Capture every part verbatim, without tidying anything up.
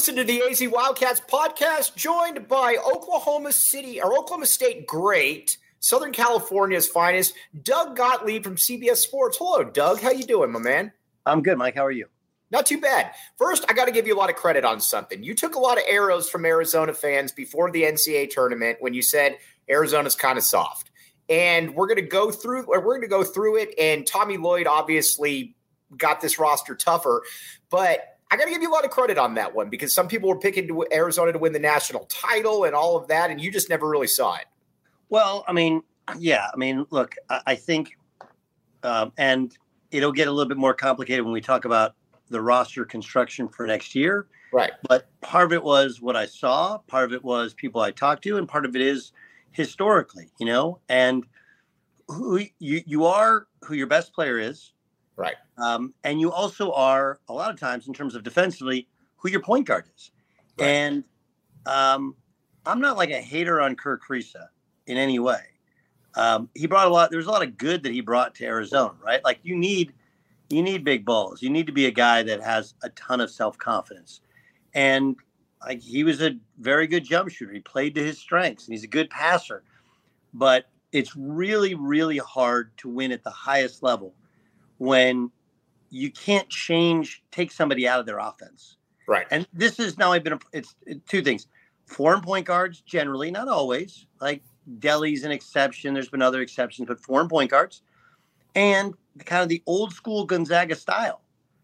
listening to the A Z Wildcats podcast, joined by Oklahoma City or Oklahoma State great, Southern California's finest, Doug Gottlieb from C B S Sports. Hello, Doug. How you doing, my man? I'm good, Mike. How are you? Not too bad. First, I got to give you a lot of credit on something. You took a lot of arrows from Arizona fans before the N C double A tournament when you said Arizona's kind of soft. And we're going to go through we're going to go through it, and Tommy Lloyd obviously got this roster tougher, but I got to give you a lot of credit on that one because some people were picking to Arizona to win the national title and all of that, and you just never really saw it. Well, I mean, yeah. I mean, look, I, I think um, – and it'll get a little bit more complicated when we talk about the roster construction for next year. Right. But part of it was what I saw. Part of it was people I talked to, and part of it is historically, you know, and who you, you are who your best player is. Right. Um, and you also are, a lot of times, in terms of defensively, who your point guard is. Right. And um, I'm not like a hater on Kerr Kriisa in any way. Um, he brought a lot. There's a lot of good that he brought to Arizona, right? Like you need, you need big balls. You need to be a guy that has a ton of self-confidence. And like he was a very good jump shooter. He played to his strengths, and he's a good passer. But it's really, really hard to win at the highest level when you can't change, take somebody out of their offense. Right. And this is now I've been, a, it's two things. Foreign point guards, generally, not always. Like Delhi's an exception. There's been other exceptions, but foreign point guards. And kind of the old school Gonzaga style.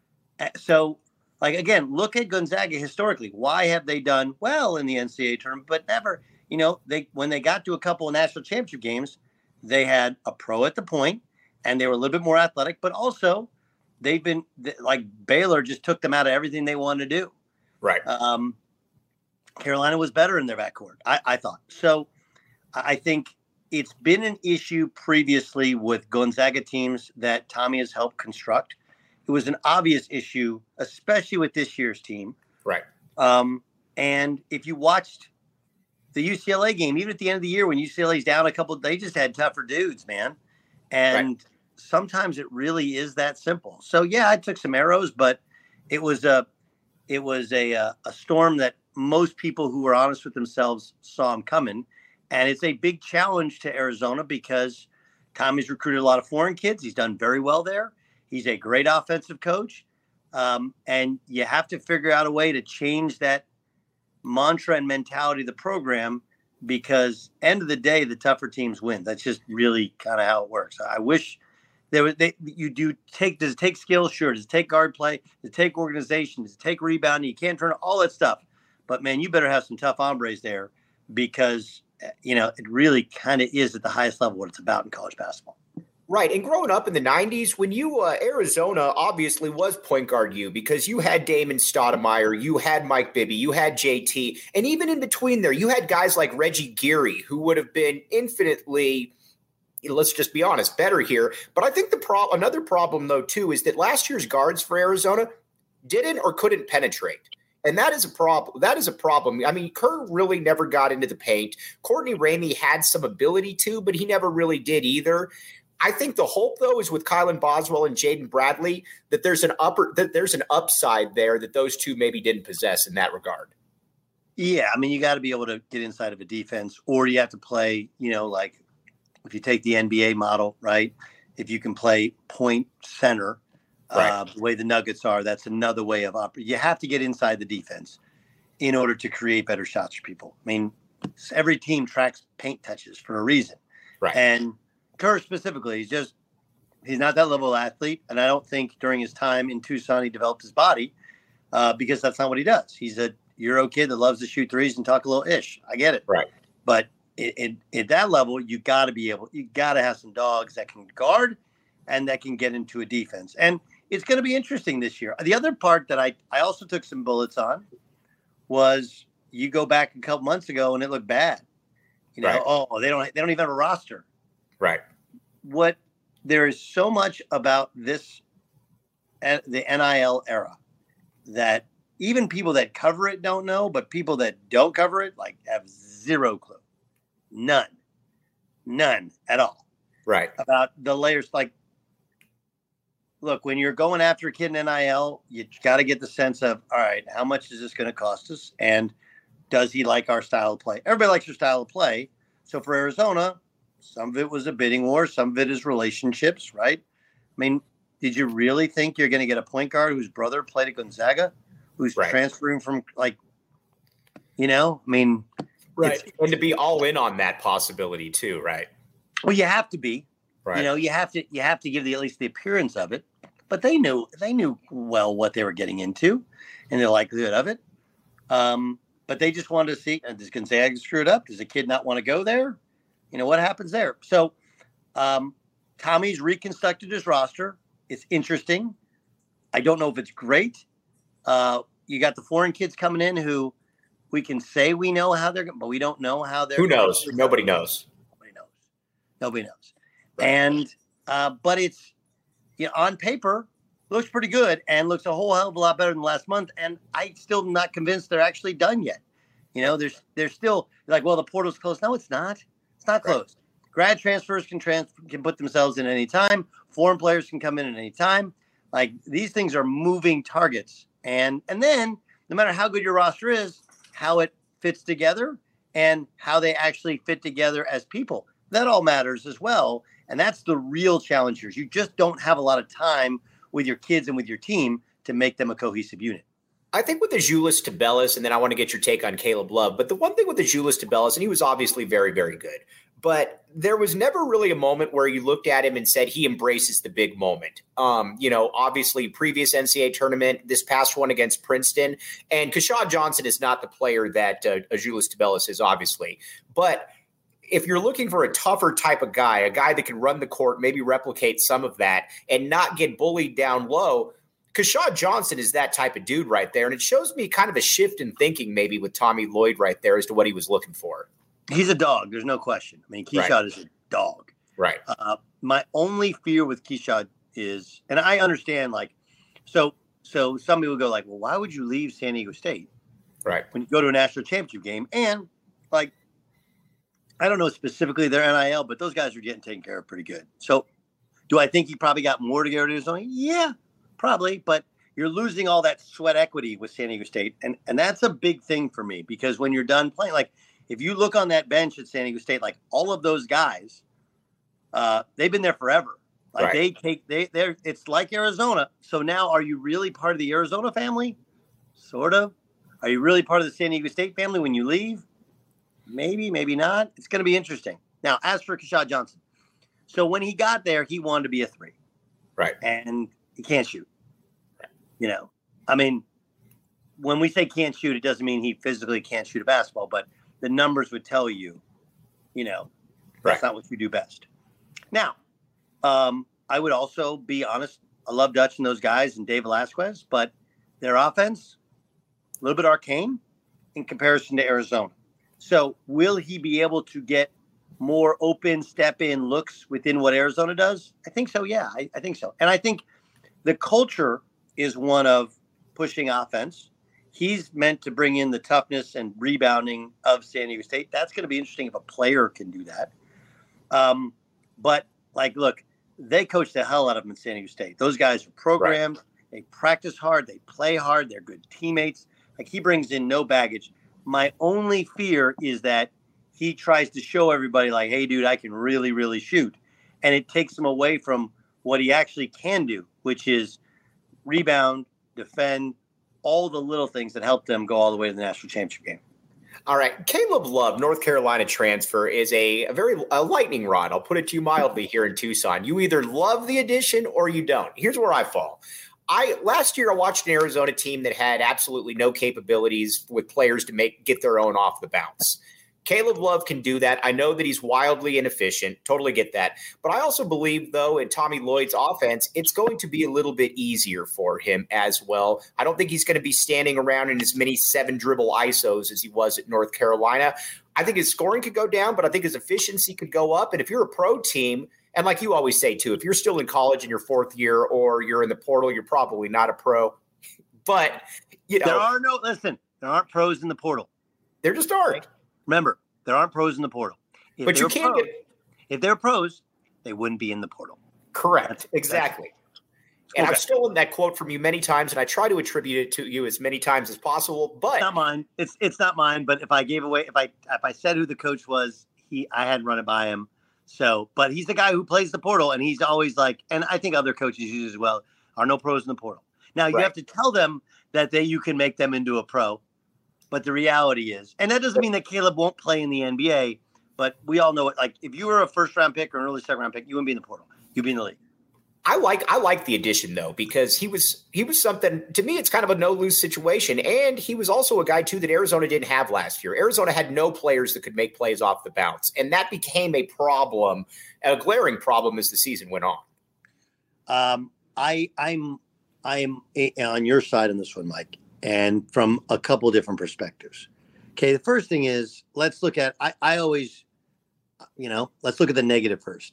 So, like, again, look at Gonzaga historically. Why have they done well in the N C double A tournament, but never, you know, they when they got to a couple of national championship games, they had a pro at the point, and they were a little bit more athletic, but also they've been like Baylor just took them out of everything they wanted to do. Right. Um, Carolina was better in their backcourt, I, I thought. So I think it's been an issue previously with Gonzaga teams that Tommy has helped construct. It was an obvious issue, especially with this year's team. Right. Um, and if you watched the U C L A game, even at the end of the year when U C L A's down a couple, they just had tougher dudes, man. And right. Sometimes it really is that simple. So yeah, I took some arrows, but it was a it was a a, a storm that most people who were honest with themselves saw him coming. And it's a big challenge to Arizona because Tommy's recruited a lot of foreign kids. He's done very well there. He's a great offensive coach. Um, and you have to figure out a way to change that mantra and mentality of the program because end of the day, the tougher teams win. That's just really kind of how it works. I wish there was, they, you do take, does it take skill? Sure. Does it take guard play? Does it take organization? Does it take rebounding? You can't turn all that stuff, but man, you better have some tough hombres there because, you know, it really kind of is at the highest level what it's about in college basketball. Right. And growing up in the nineties, when you, uh, Arizona obviously was point guard you because you had Damon Stoudemire, you had Mike Bibby, you had J T, and even in between there, you had guys like Reggie Geary who would have been infinitely, let's just be honest, better here. But I think the pro- another problem, though, too, is that last year's guards for Arizona didn't or couldn't penetrate. And that is a problem. That is a problem. I mean, Kerr really never got into the paint. Courtney Ramey had some ability to, but he never really did either. I think the hope, though, is with Kylan Boswell and Jaden Bradley that there's an upper that there's an upside there that those two maybe didn't possess in that regard. Yeah, I mean, you got to be able to get inside of a defense, or you have to play, you know, like if you take the N B A model, right? If you can play point center, right. uh, the way the Nuggets are, that's another way of operating. You have to get inside the defense in order to create better shots for people. I mean, every team tracks paint touches for a reason, right? And Kerr specifically, he's just, he's not that level of athlete. And I don't think during his time in Tucson, he developed his body uh, because that's not what he does. He's a Euro kid that loves to shoot threes and talk a little ish. I get it. Right. But it, it, at that level, you got to be able, you got to have some dogs that can guard and that can get into a defense. And it's going to be interesting this year. The other part that I, I also took some bullets on was you go back a couple months ago and it looked bad. You know, right. oh, they don't, they don't even have a roster. Right. What there is so much about this, the N I L era, that even people that cover it don't know, but people that don't cover it like have zero clue, none, none at all. Right. About the layers. Like look, when you're going after a kid in N I L, you got to get the sense of, all right, how much is this going to cost us? And does he like our style of play? Everybody likes your style of play. So for Arizona, some of it was a bidding war. Some of it is relationships, right? I mean, did you really think you're going to get a point guard whose brother played at Gonzaga, who's right. transferring from, like, you know, I mean. Right. And to be all in on that possibility too, right? Well, you have to be. Right. You know, you have to you have to give the at least the appearance of it. But they knew they knew well what they were getting into and the likelihood of it. Um, but they just wanted to see, uh, does Gonzaga screw it up? Does the kid not want to go there? You know, what happens there? So um, Tommy's reconstructed his roster. It's interesting. I don't know if it's great. Uh, you got the foreign kids coming in who we can say we know how they're going, but we don't know how they're Who knows? Going. Nobody knows. Nobody knows. Nobody knows. Right. And, uh, but it's, you know, on paper, looks pretty good and looks a whole hell of a lot better than last month. And I still am not convinced they're actually done yet. You know, there's, there's still like, well, the portal's closed. No, it's not. It's not closed. Right. Grad transfers can transfer, can put themselves in any time. Foreign players can come in at any time. Like, these things are moving targets. And, and then no matter how good your roster is, how it fits together and how they actually fit together as people, that all matters as well. And that's the real challenge here. You just don't have a lot of time with your kids and with your team to make them a cohesive unit. I think with the Azuolas Tubelis, and then I want to get your take on Caleb Love, but the one thing with the Azuolas Tubelis, and he was obviously very, very good, but there was never really a moment where you looked at him and said he embraces the big moment. Um, you know, obviously previous N C double A tournament, this past one against Princeton, and Keshad Johnson is not the player that uh, Azuolas Tubelis is, obviously. But if you're looking for a tougher type of guy, a guy that can run the court, maybe replicate some of that and not get bullied down low, Keshad Johnson is that type of dude right there. And it shows me kind of a shift in thinking maybe with Tommy Lloyd right there as to what he was looking for. He's a dog. There's no question. I mean, Keshad right. is a dog. Right. Uh, my only fear with Keshad is, and I understand, like, so so some people go like, well, why would you leave San Diego State? Right. When you go to a national championship game? And, like, I don't know specifically their N I L, but those guys are getting taken care of pretty good. So do I think he probably got more to go to his own? Yeah, probably. But you're losing all that sweat equity with San Diego State. And, and that's a big thing for me because when you're done playing, like, if you look on that bench at San Diego State, like all of those guys, uh, they've been there forever. Like right. they take, they, they're, it's like Arizona. So now are you really part of the Arizona family? Sort of. Are you really part of the San Diego State family when you leave? Maybe, maybe not. It's going to be interesting. Now, as for Keshad Johnson, so when he got there, he wanted to be a three. Right. And he can't shoot. Right. You know, I mean, when we say can't shoot, it doesn't mean he physically can't shoot a basketball, but the numbers would tell you, you know, that's right. not what you do best. Now, um, I would also be honest. I love Dutch and those guys and Dave Velasquez, but their offense, a little bit arcane in comparison to Arizona. So will he be able to get more open step in looks within what Arizona does? I think so. Yeah, I, I think so. And I think the culture is one of pushing offense. He's meant to bring in the toughness and rebounding of San Diego State. That's going to be interesting if a player can do that. Um, but, like, look, they coach the hell out of them in San Diego State. Those guys are programmed. Right. They practice hard. They play hard. They're good teammates. Like, he brings in no baggage. My only fear is that he tries to show everybody, like, hey, dude, I can really, really shoot. And it takes him away from what he actually can do, which is rebound, defend, all the little things that help them go all the way to the national championship game. All right. Caleb Love, North Carolina transfer, is a, a very a lightning rod. I'll put it to you mildly here in Tucson. You either love the addition or you don't. Here's where I fall. I last year I watched an Arizona team that had absolutely no capabilities with players to make get their own off the bounce. Caleb Love can do that. I know that he's wildly inefficient. Totally get that. But I also believe, though, in Tommy Lloyd's offense, it's going to be a little bit easier for him as well. I don't think he's going to be standing around in as many seven dribble I S Os as he was at North Carolina. I think his scoring could go down, but I think his efficiency could go up. And if you're a pro team, and like you always say, too, if you're still in college in your fourth year or you're in the portal, you're probably not a pro. But, you know. There are no – listen, there aren't pros in the portal. There just aren't. Remember, there aren't pros in the portal. If but you can't pros, get – if they're pros, they wouldn't be in the portal. Correct. That's, exactly. And Okay. I've stolen that quote from you many times, and I try to attribute it to you as many times as possible. But It's not mine. It's it's not mine. But if I gave away, if I if I said who the coach was, he I hadn't run it by him. So, but he's the guy who plays the portal, and he's always like, and I think other coaches use as well. Are no pros in the portal. Now you Right. have to tell them that they you can make them into a pro. But the reality is, and that doesn't mean that Caleb won't play in the N B A. But we all know it. Like if you were a first round pick or an early second round pick, you wouldn't be in the portal. You'd be in the league. I like I like the addition though, because he was he was something to me. It's kind of a no lose situation, and he was also a guy too that Arizona didn't have last year. Arizona had no players that could make plays off the bounce, and that became a problem, a glaring problem as the season went on. Um, I I'm I'm on your side on this one, Mike, and from a couple different perspectives. Okay, the first thing is let's look at. I I always, you know, let's look at the negative first.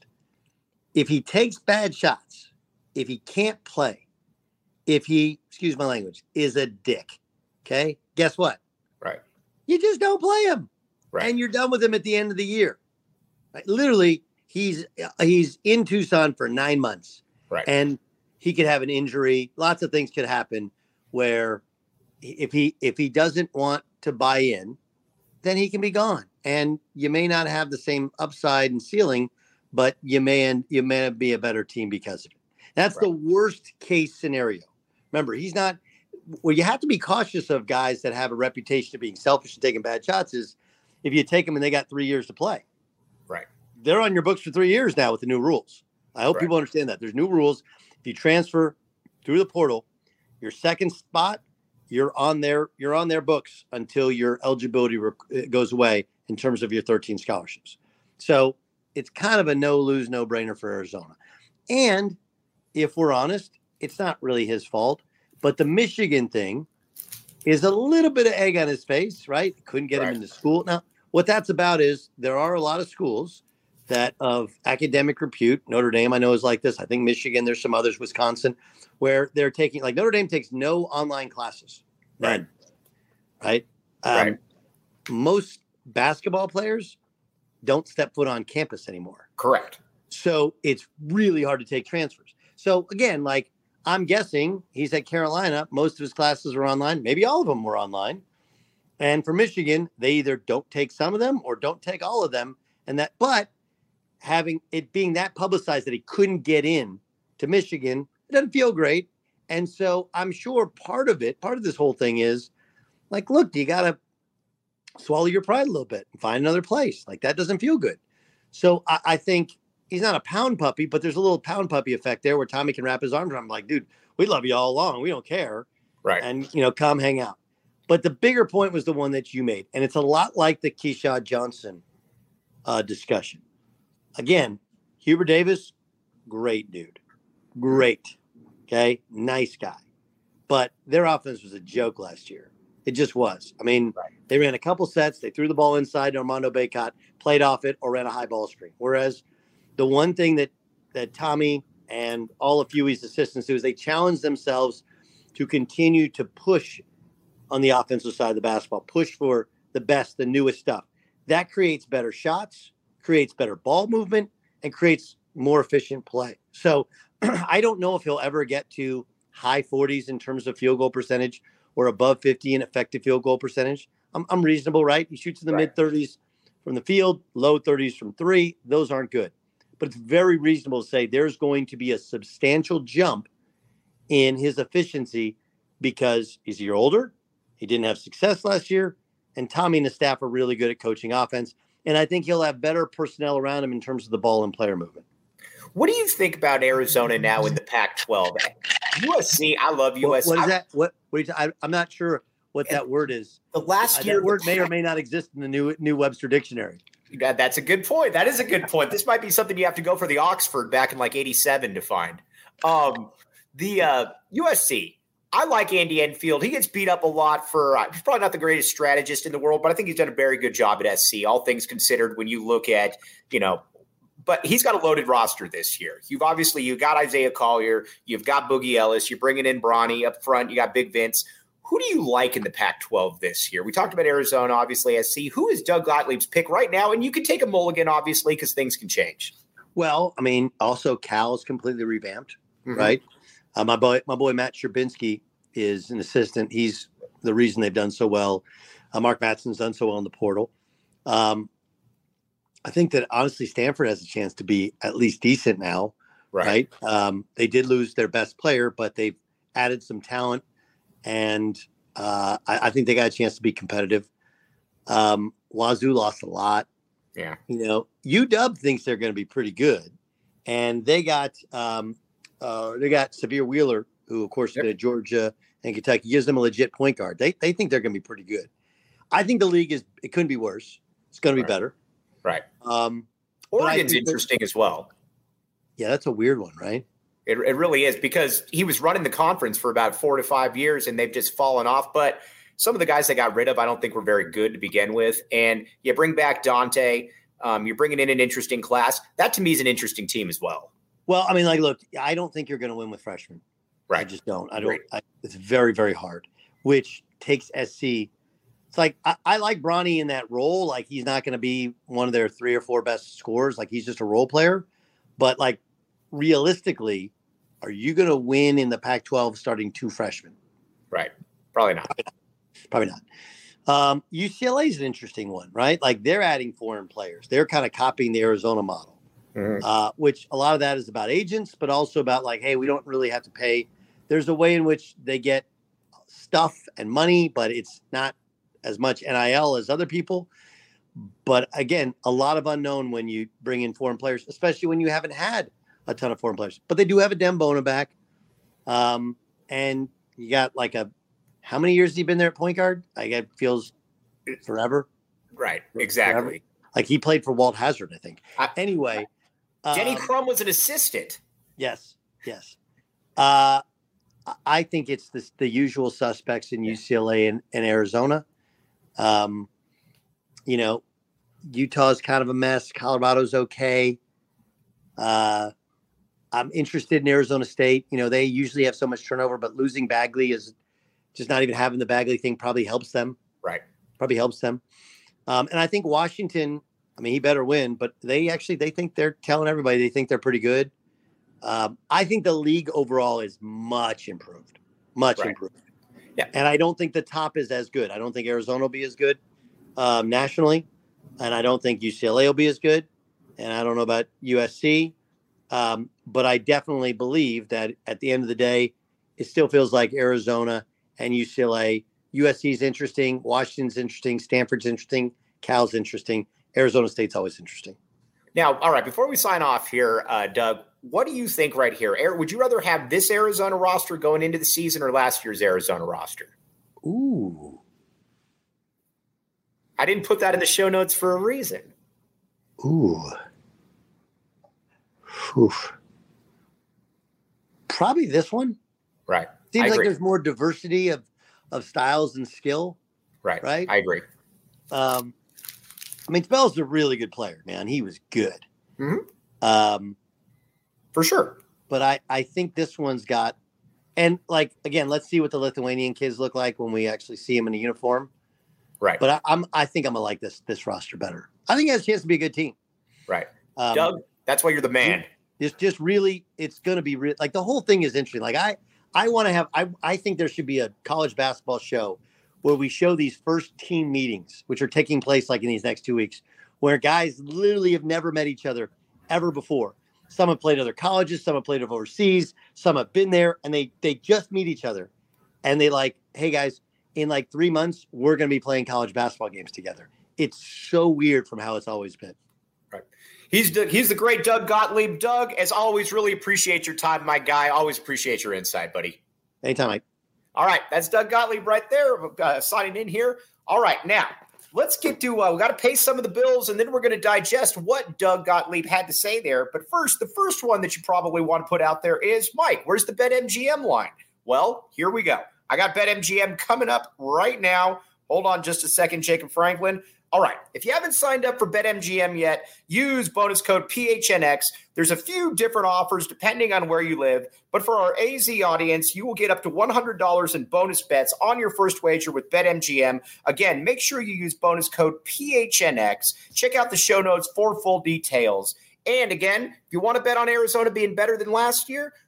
If he takes bad shots, if he can't play, if he, excuse my language, is a dick, okay, guess what? Right. You just don't play him. Right. And you're done with him at the end of the year. Right? Literally, he's he's in Tucson for nine months. Right. And he could have an injury. Lots of things could happen where if he if he doesn't want to buy in, then he can be gone. And you may not have the same upside and ceiling, but you may end, you may be a better team because of it. That's right. The worst case scenario. Remember, he's not. Well, you have to be cautious of guys that have a reputation of being selfish and taking bad shots. Is if you take them and they got three years to play, right? They're on your books for three years now with the new rules. I hope right. people understand that there's new rules. If you transfer through the portal, your second spot, you're on their you're on their books until your eligibility rec- goes away in terms of your thirteen scholarships. So it's kind of a no lose, no brainer for Arizona. And if we're honest, it's not really his fault. But the Michigan thing is a little bit of egg on his face, right? Couldn't get right. him into school. Now, what that's about is there are a lot of schools that of academic repute. Notre Dame, I know, is like this. I think Michigan, there's some others, Wisconsin, where they're taking, like Notre Dame takes no online classes. None. Right? Um, right. Most basketball players don't step foot on campus anymore. Correct. So it's really hard to take transfers. So again, like I'm guessing he's at Carolina. Most of his classes are online. Maybe all of them were online. And for Michigan, they either don't take some of them or don't take all of them. And that, but having it being that publicized that he couldn't get in to Michigan, it doesn't feel great. And so I'm sure part of it, part of this whole thing is like, look, you got to swallow your pride a little bit and find another place. Like that doesn't feel good. So I, I think he's not a pound puppy, but there's a little pound puppy effect there where Tommy can wrap his arms around him like, dude, we love you all along. We don't care. Right. And, you know, come hang out. But the bigger point was the one that you made. And it's a lot like the Keyshawn Johnson uh, discussion. Again, Hubert Davis, great dude. Great. Okay. Nice guy. But their offense was a joke last year. It just was. I mean, right. They ran a couple sets. They threw the ball inside to Armando Bacot, played off it, or ran a high ball screen. Whereas the one thing that, that Tommy and all of Huey's assistants do is they challenge themselves to continue to push on the offensive side of the basketball, push for the best, the newest stuff. That creates better shots, creates better ball movement, and creates more efficient play. So I don't know if he'll ever get to high forties in terms of field goal percentage or above fifty in effective field goal percentage. I'm, I'm reasonable, right? He shoots in the right. mid thirties from the field, low thirties from three. Those aren't good. But it's very reasonable to say there's going to be a substantial jump in his efficiency because he's a year older. He didn't have success last year. And Tommy and the staff are really good at coaching offense. And I think he'll have better personnel around him in terms of the ball and player movement. What do you think about Arizona now in the Pac twelve? U S C, I love U S C. What, what is that? What, what are you t- I, I'm not sure what that word is. The last uh, year, that word may or may not exist in the new new Webster Dictionary. Yeah, that's a good point. That is a good point. This might be something you have to go for the Oxford back in like eighty-seven to find. Um, the uh, U S C. I like Andy Enfield. He gets beat up a lot for uh, – he's probably not the greatest strategist in the world, but I think he's done a very good job at S C, all things considered when you look at, you know – but he's got a loaded roster this year. You've obviously – you've got Isaiah Collier. You've got Boogie Ellis. You're bringing in Bronny up front. You got Big Vince. Who do you like in the Pac twelve this year? We talked about Arizona, obviously, S C. Who is Doug Gottlieb's pick right now? And you can take a mulligan, obviously, because things can change. Well, I mean, also Cal is completely revamped, mm-hmm. right? Uh, my boy, my boy Matt Sherbinsky is an assistant. He's the reason they've done so well. Uh, Mark Matson's done so well in the portal. Um, I think that honestly, Stanford has a chance to be at least decent now, right? right? Um, they did lose their best player, but they've added some talent, and uh, I, I think they got a chance to be competitive. Um, Wazoo lost a lot. Yeah, you know, U W thinks they're going to be pretty good, and they got um, uh, they got Severe Wheeler, who of course yep. is at Georgia and Kentucky, gives them a legit point guard. They they think they're going to be pretty good. I think the league is it couldn't be worse. It's going to be right. better. Right. Um, Oregon's interesting as well. Yeah, that's a weird one, right? It, it really is, because he was running the conference for about four to five years and they've just fallen off. But some of the guys they got rid of, I don't think were very good to begin with. And you bring back Dante. Um, you're bringing in an interesting class. That to me is an interesting team as well. Well, I mean, like, look, I don't think you're going to win with freshmen. Right. I just don't. I don't. I, it's very, very hard, which takes S C. It's like I, I like Bronny in that role. Like he's not going to be one of their three or four best scorers. Like he's just a role player. But like realistically, are you going to win in the Pac twelve starting two freshmen? Right. Probably not. Probably not. Probably not. Um, U C L A is an interesting one, right? Like they're adding foreign players. They're kind of copying the Arizona model, mm-hmm. uh, which a lot of that is about agents, but also about like, hey, we don't really have to pay. There's a way in which they get stuff and money, but it's not as much N I L as other people. But again, a lot of unknown when you bring in foreign players, especially when you haven't had a ton of foreign players. But they do have a Dembona back. Um, and you got like a, how many years has he been there at point guard? Like it feels forever. Right. Exactly. Forever. Like he played for Walt Hazzard, I think. I, anyway. Denny um, Crum was an assistant. Yes. Yes. Uh, I think it's the, the usual suspects in U C L A and, and Arizona. Um, you know, Utah's kind of a mess. Colorado's okay. Uh, I'm interested in Arizona State. You know, they usually have so much turnover, but losing Bagley is just not even having the Bagley thing probably helps them. Right. Probably helps them. Um, and I think Washington, I mean, he better win, but they actually, they think they're telling everybody they think they're pretty good. Um, I think the league overall is much improved, much right. improved. Yeah. And I don't think the top is as good. I don't think Arizona will be as good um, nationally. And I don't think U C L A will be as good. And I don't know about U S C. Um, but I definitely believe that at the end of the day, it still feels like Arizona and U C L A. U S C is interesting. Washington's interesting. Stanford's interesting. Cal's interesting. Arizona State's always interesting. Now, all right, before we sign off here, uh, Doug, what do you think right here? Would you rather have this Arizona roster going into the season or last year's Arizona roster? Ooh. I didn't put that in the show notes for a reason. Ooh. Oof. Probably this one. Right. Seems like there's more diversity of, of styles and skill. Right. Right. I agree. Um, I mean, Spell's a really good player, man. He was good. Mm-hmm. Um, For sure. But I, I think this one's got, and like, again, let's see what the Lithuanian kids look like when we actually see them in a uniform. Right. But I, I'm, I think I'm going to like this, this roster better. I think it has a chance to be a good team. Right. Um, Doug, that's why you're the man. It's just really, it's going to be re- like the whole thing is interesting. Like I, I want to have, I, I think there should be a college basketball show where we show these first team meetings, which are taking place like in these next two weeks, where guys literally have never met each other ever before. Some have played other colleges, some have played overseas, some have been there, and they they just meet each other. And they like, hey guys, in like three months, we're going to be playing college basketball games together. It's so weird from how it's always been. Right. He's the, he's the great Doug Gottlieb. Doug, as always, really appreciate your time, my guy. Always appreciate your insight, buddy. Anytime, Mike. All right, that's Doug Gottlieb right there, uh, signing in here. All right, now let's get to uh, – we got to pay some of the bills, and then we're going to digest what Doug Gottlieb had to say there. But first, the first one that you probably want to put out there is, Mike, where's the BetMGM line? Well, here we go. I got BetMGM coming up right now. Hold on just a second, Jacob Franklin. All right, if you haven't signed up for BetMGM yet, use bonus code P H N X. There's a few different offers depending on where you live, but for our A Z audience, you will get up to one hundred dollars in bonus bets on your first wager with BetMGM. Again, make sure you use bonus code P H N X. Check out the show notes for full details. And again, if you want to bet on Arizona being better than last year,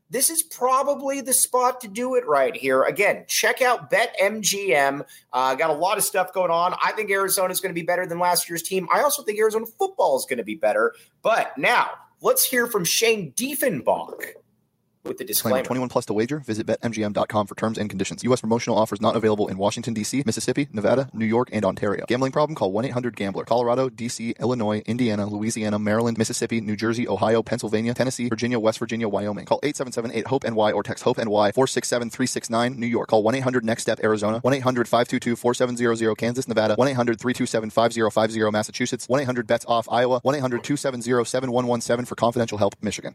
this is probably the spot to do it right here. Again, check out BetMGM. Uh, got a lot of stuff going on. I think Arizona is going to be better than last year's team. I also think Arizona football is going to be better. But now let's hear from Shane Diefenbach with the disclaimer. twenty-one plus to wager. Visit bet M G M dot com for terms and conditions. U S promotional offers not available in Washington, D C, Mississippi, Nevada, New York, and Ontario. Gambling problem? Call one eight hundred gambler. Colorado, D C, Illinois, Indiana, Louisiana, Maryland, Mississippi, New Jersey, Ohio, Pennsylvania, Tennessee, Virginia, West Virginia, Wyoming. Call eight seven seven eight hope N Y or text HOPE-NY four six seven three six nine. New York. Call one eight hundred next step Arizona. one eight hundred five two two four seven zero zero. Kansas, Nevada. one eight hundred three two seven five zero five zero. Massachusetts. one eight hundred bets off Iowa. one eight hundred two seven zero seven one one seven for confidential help, Michigan.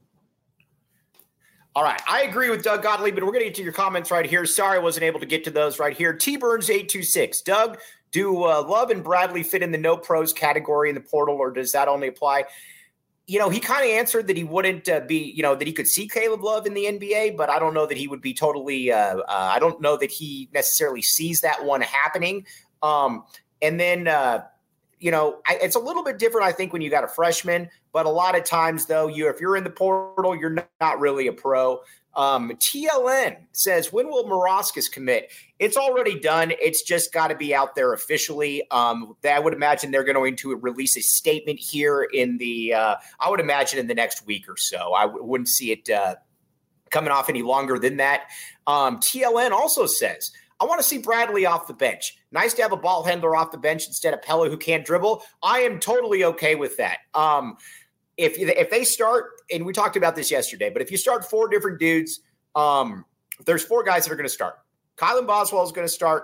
All right. I agree with Doug Gottlieb, but we're going to get to your comments right here. Sorry I wasn't able to get to those right here. T Burns eight two six. Doug, do uh, Love and Bradley fit in the no pros category in the portal, or does that only apply? You know, he kind of answered that he wouldn't uh, be, you know, that he could see Caleb Love in the N B A, but I don't know that he would be totally, uh, uh, I don't know that he necessarily sees that one happening. Um, and then, uh, you know, I, it's a little bit different, I think, when you got a freshman. But a lot of times, though, you if you're in the portal, you're not, not really a pro. Um, T L N says, when will Morauskas commit? It's already done. It's just got to be out there officially. Um, I would imagine they're going to release a statement here in the, uh, I would imagine in the next week or so. I w- wouldn't see it uh, coming off any longer than that. Um, T L N also says, I want to see Bradley off the bench. Nice to have a ball handler off the bench instead of Pella who can't dribble. I am totally okay with that. Um, if if they start, and we talked about this yesterday, but if you start four different dudes, um, there's four guys that are going to start. Kylan Boswell is going to start.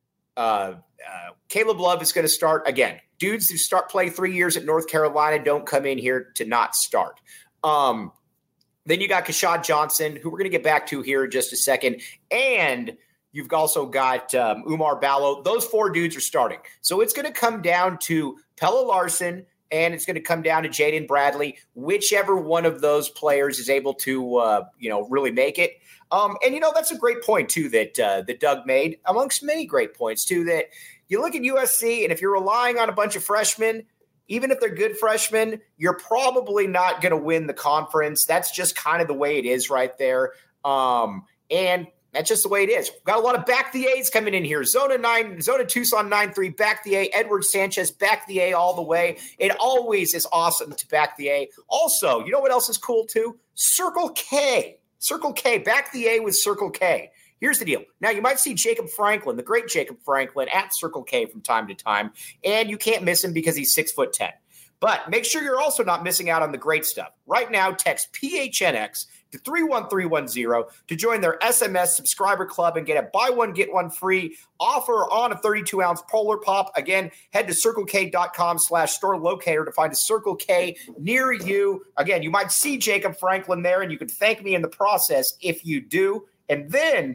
Uh, uh, Caleb Love is going to start. Again, dudes who start play three years at North Carolina don't come in here to not start. Um, then you got Kashad Johnson, who we're going to get back to here in just a second, and you've also got um, Umar Ballo. Those four dudes are starting. So it's going to come down to Pella Larson, and it's going to come down to Jaden Bradley, whichever one of those players is able to, uh, you know, really make it. Um, and, you know, that's a great point, too, that uh, that Doug made, amongst many great points, too, that you look at U S C, and if you're relying on a bunch of freshmen, even if they're good freshmen, you're probably not going to win the conference. That's just kind of the way it is right there. Um, and that's just the way it is. We've got a lot of back the A's coming in here. Zona nine, Zona Tucson nine three, back the A. Edward Sanchez, back the A all the way. It always is awesome to back the A. Also, you know what else is cool too? Circle K. Circle K, back the A with Circle K. Here's the deal. Now, you might see Jacob Franklin, the great Jacob Franklin, at Circle K from time to time, and you can't miss him because he's six foot ten. But make sure you're also not missing out on the great stuff. Right now, text P H N X to three one three one zero to join their S M S subscriber club and get a buy one, get one free offer on a thirty-two ounce Polar Pop. Again, head to circlek.com slash store locator to find a Circle K near you. Again, you might see Jacob Franklin there, and you can thank me in the process if you do. And then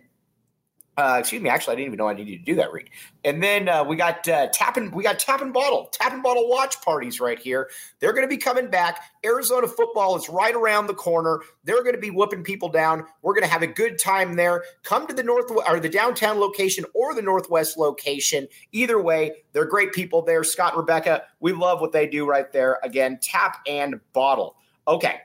Uh, excuse me. Actually, I didn't even know I needed to do that, Reed. And then uh, we got uh, tap and we got tap and bottle, tap and bottle watch parties right here. They're going to be coming back. Arizona football is right around the corner. They're going to be whooping people down. We're going to have a good time there. Come to the north or the downtown location or the northwest location. Either way, they're great people there. Scott and Rebecca, we love what they do right there. Again, tap and bottle. Okay.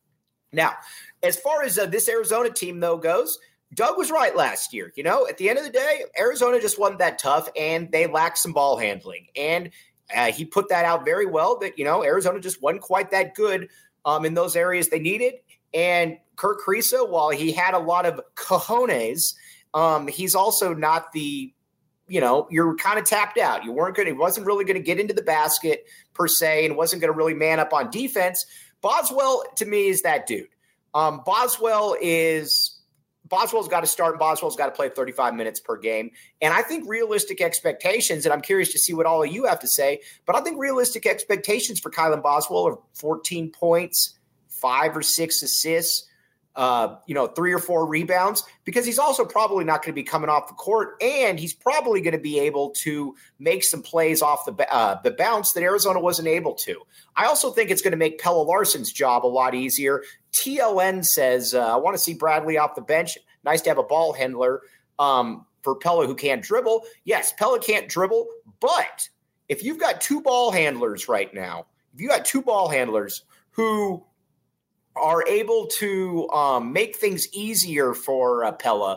Now, as far as uh, this Arizona team though goes, Doug was right last year. You know, at the end of the day, Arizona just wasn't that tough, and they lacked some ball handling. And uh, he put that out very well that, you know, Arizona just wasn't quite that good um, in those areas they needed. And Kirk Kriisa, while he had a lot of cojones, um, he's also not the, you know, you're kind of tapped out. You weren't going to, he wasn't really going to get into the basket per se and wasn't going to really man up on defense. Boswell, to me, is that dude. Um, Boswell is – Boswell's got to start, and Boswell's got to play thirty-five minutes per game. And I think realistic expectations, and I'm curious to see what all of you have to say, but I think realistic expectations for Kylan Boswell are fourteen points, five or six assists, uh, you know, three or four rebounds, because he's also probably not going to be coming off the court, and he's probably going to be able to make some plays off the uh, the bounce that Arizona wasn't able to. I also think it's going to make Pella Larson's job a lot easier. T L N says, uh, I want to see Bradley off the bench. Nice to have a ball handler um, for Pella who can't dribble. Yes, Pella can't dribble, but if you've got two ball handlers right now, if you got two ball handlers who are able to um, make things easier for uh, Pella,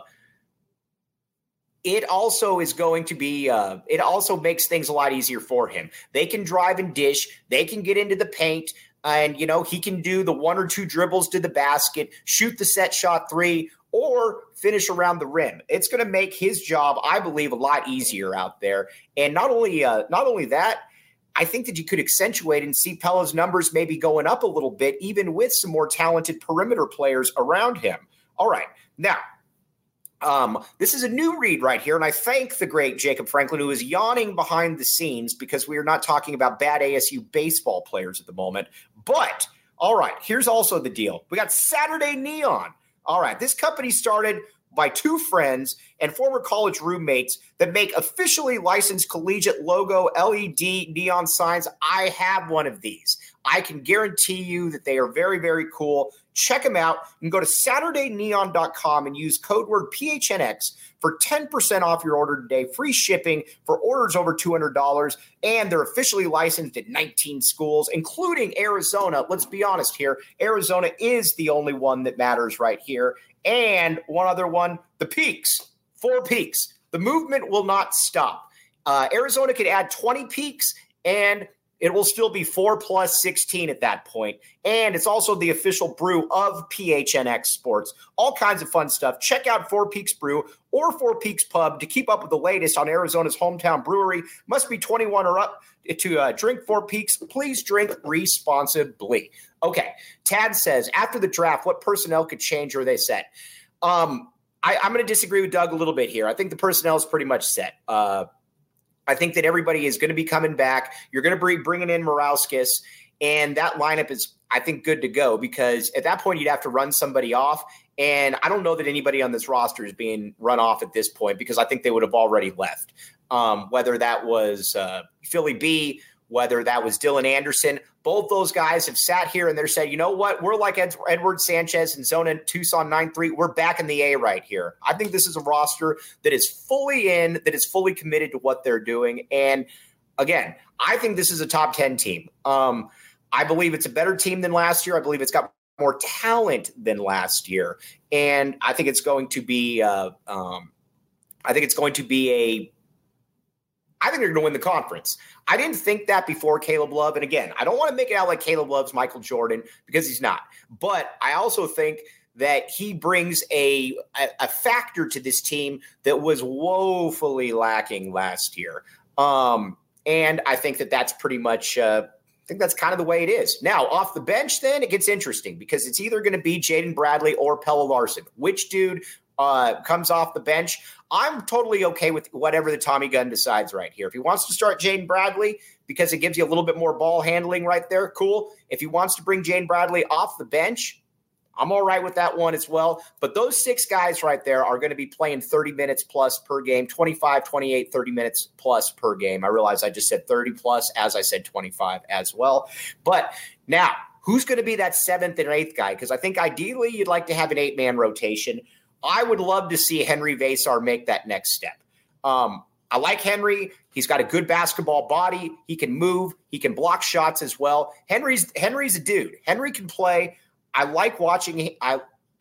it also is going to be, uh, it also makes things a lot easier for him. They can drive and dish. They can get into the paint. And, you know, he can do the one or two dribbles to the basket, shoot the set shot three, or finish around the rim. It's going to make his job, I believe, a lot easier out there. And not only, uh, not only that, I think that you could accentuate and see Pella's numbers maybe going up a little bit, even with some more talented perimeter players around him. All right. Now, Um, this is a new read right here, and I thank the great Jacob Franklin, who is yawning behind the scenes because we are not talking about bad A S U baseball players at the moment. But, all right, here's also the deal. We got Saturday Neon. All right, this company started by two friends and former college roommates that make officially licensed collegiate logo L E D neon signs. I have one of these. I can guarantee you that they are very, very cool. Check them out. You can go to Saturday Neon dot com and use code word P H N X for ten percent off your order today. Free shipping for orders over two hundred dollars. And they're officially licensed at nineteen schools, including Arizona. Let's be honest here. Arizona is the only one that matters right here. And one other one, the Peaks. Four Peaks. The movement will not stop. Uh, Arizona could add twenty Peaks, and it will still be four plus sixteen at that point. And it's also the official brew of P H N X Sports. All kinds of fun stuff. Check out Four Peaks Brew or Four Peaks Pub to keep up with the latest on Arizona's hometown brewery. Must be twenty-one or up to uh, drink Four Peaks. Please drink responsibly. Okay, Tad says, after the draft, what personnel could change or are they set? Um, I, I'm going to disagree with Doug a little bit here. I think the personnel is pretty much set. Uh, I think that everybody is going to be coming back. You're going to be bringing in Morauskas, and that lineup is, I think, good to go because at that point you'd have to run somebody off, and I don't know that anybody on this roster is being run off at this point because I think they would have already left, um, whether that was uh, Philly B, whether that was Dylan Anderson. Both those guys have sat here and they're saying, you know what, we're like Ed- Edward Sanchez and Zona Tucson nine three. We're back in the A right here. I think this is a roster that is fully in, that is fully committed to what they're doing. And again, I think this is a top ten team. Um, I believe it's a better team than last year. I believe it's got more talent than last year. And I think it's going to be, uh, um, I think it's going to be a, I think they're going to win the conference. I didn't think that before Caleb Love. And again, I don't want to make it out like Caleb Love's Michael Jordan because he's not. But I also think that he brings a, a, a factor to this team that was woefully lacking last year. Um, and I think that that's pretty much uh, – I think that's kind of the way it is. Now, off the bench then, it gets interesting because it's either going to be Jaden Bradley or Pella Larson. Which dude uh, comes off the bench? I'm totally okay with whatever the Tommy Gunn decides right here. If he wants to start Jaden Bradley because it gives you a little bit more ball handling right there, cool. If he wants to bring Jaden Bradley off the bench, I'm all right with that one as well. But those six guys right there are going to be playing thirty minutes plus per game, twenty-five, twenty-eight, thirty minutes plus per game. I realize I just said thirty plus as I said twenty-five as well. But now, who's going to be that seventh and eighth guy? Because I think ideally you'd like to have an eight-man rotation. I would love to see Henry Vasar make that next step. Um, I like Henry. He's got a good basketball body. He can move. He can block shots as well. Henry's Henry's a dude. Henry can play. I like watching. I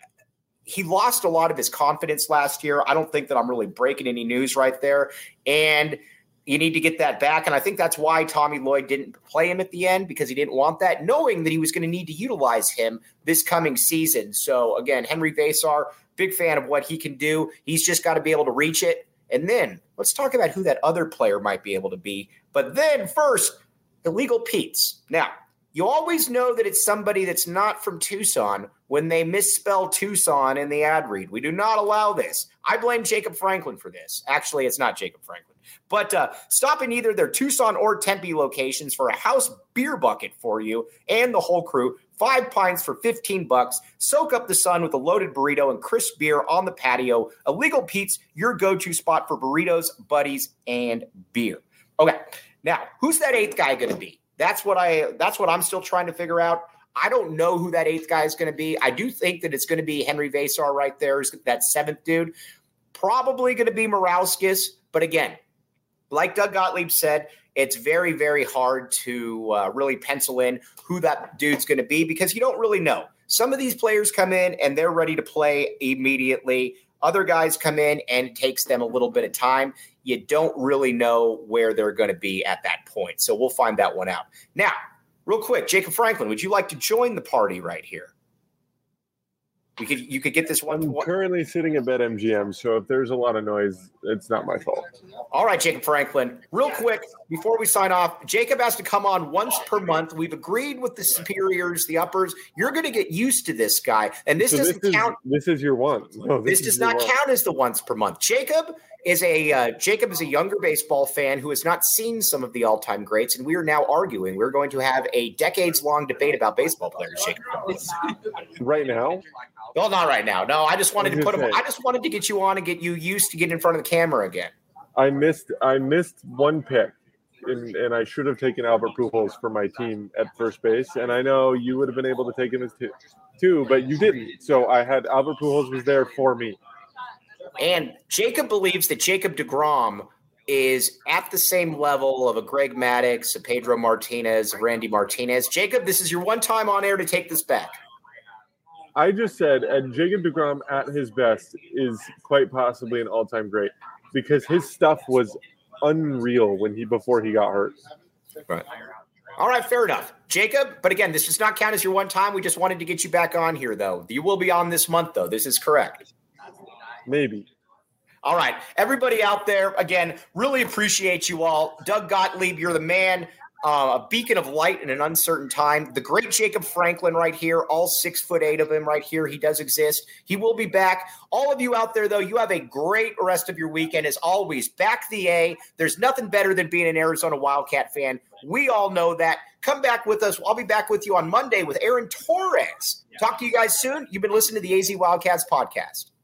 he lost a lot of his confidence last year. I don't think that I'm really breaking any news right there. And you need to get that back. And I think that's why Tommy Lloyd didn't play him at the end because he didn't want that, knowing that he was going to need to utilize him this coming season. So again, Henry Vasar, big fan of what he can do. He's just got to be able to reach it. And then let's talk about who that other player might be able to be. But then first, Illegal Pete's. Now, you always know that it's somebody that's not from Tucson when they misspell Tucson in the ad read. We do not allow this. I blame Jacob Franklin for this. Actually, it's not Jacob Franklin. But uh, stop in either their Tucson or Tempe locations for a house beer bucket for you and the whole crew. Five pints for fifteen bucks. Soak up the sun with a loaded burrito and crisp beer on the patio. Illegal Pete's, your go-to spot for burritos, buddies, and beer. Okay, now, who's that eighth guy going to be? That's what I. That's what I'm still trying to figure out. I don't know who that eighth guy is going to be. I do think that it's going to be Henry Vasar right there, that seventh dude. Probably going to be Morauskas, but again, like Doug Gottlieb said, it's very, very hard to uh, really pencil in who that dude's going to be because you don't really know. Some of these players come in and they're ready to play immediately. Other guys come in and it takes them a little bit of time. You don't really know where they're going to be at that point. So we'll find that one out. Now, real quick, Jacob Franklin, would you like to join the party right here? We could, you could get this one. I'm currently sitting at BetMGM, so if there's a lot of noise, it's not my fault. All right, Jacob Franklin. Real quick, before we sign off, Jacob has to come on once per month. We've agreed with the superiors, the uppers. You're going to get used to this guy, and this so doesn't this count. Is, this is your one. No, this, this does not one. count as the once per month. Jacob is a uh, Jacob is a younger baseball fan who has not seen some of the all-time greats, and we are now arguing. We're going to have a decades-long debate about baseball players, Jacob. Right now? Well, not right now. No, I just wanted to put him. I just wanted to get you on and get you used to getting in front of the camera again. I missed. I missed one pick, and, and I should have taken Albert Pujols for my team at first base. And I know you would have been able to take him as two, too, but you didn't. So I had Albert Pujols was there for me. And Jacob believes that Jacob deGrom is at the same level of a Greg Maddux, a Pedro Martinez, a Randy Martinez. Jacob, this is your one time on air to take this back. I just said, and Jacob deGrom at his best is quite possibly an all-time great because his stuff was unreal when he before he got hurt. Right. All right, fair enough. Jacob, but again, this does not count as your one time. We just wanted to get you back on here, though. You will be on this month, though. This is correct. Maybe. All right. Everybody out there, again, really appreciate you all. Doug Gottlieb, you're the man. Uh, a beacon of light in an uncertain time. The great Jacob Franklin right here, all six foot eight of him right here. He does exist. He will be back. All of you out there, though, you have a great rest of your weekend. As always, back the A. There's nothing better than being an Arizona Wildcat fan. We all know that. Come back with us. I'll be back with you on Monday with Aaron Torres. Talk to you guys soon. You've been listening to the A Z Wildcats podcast.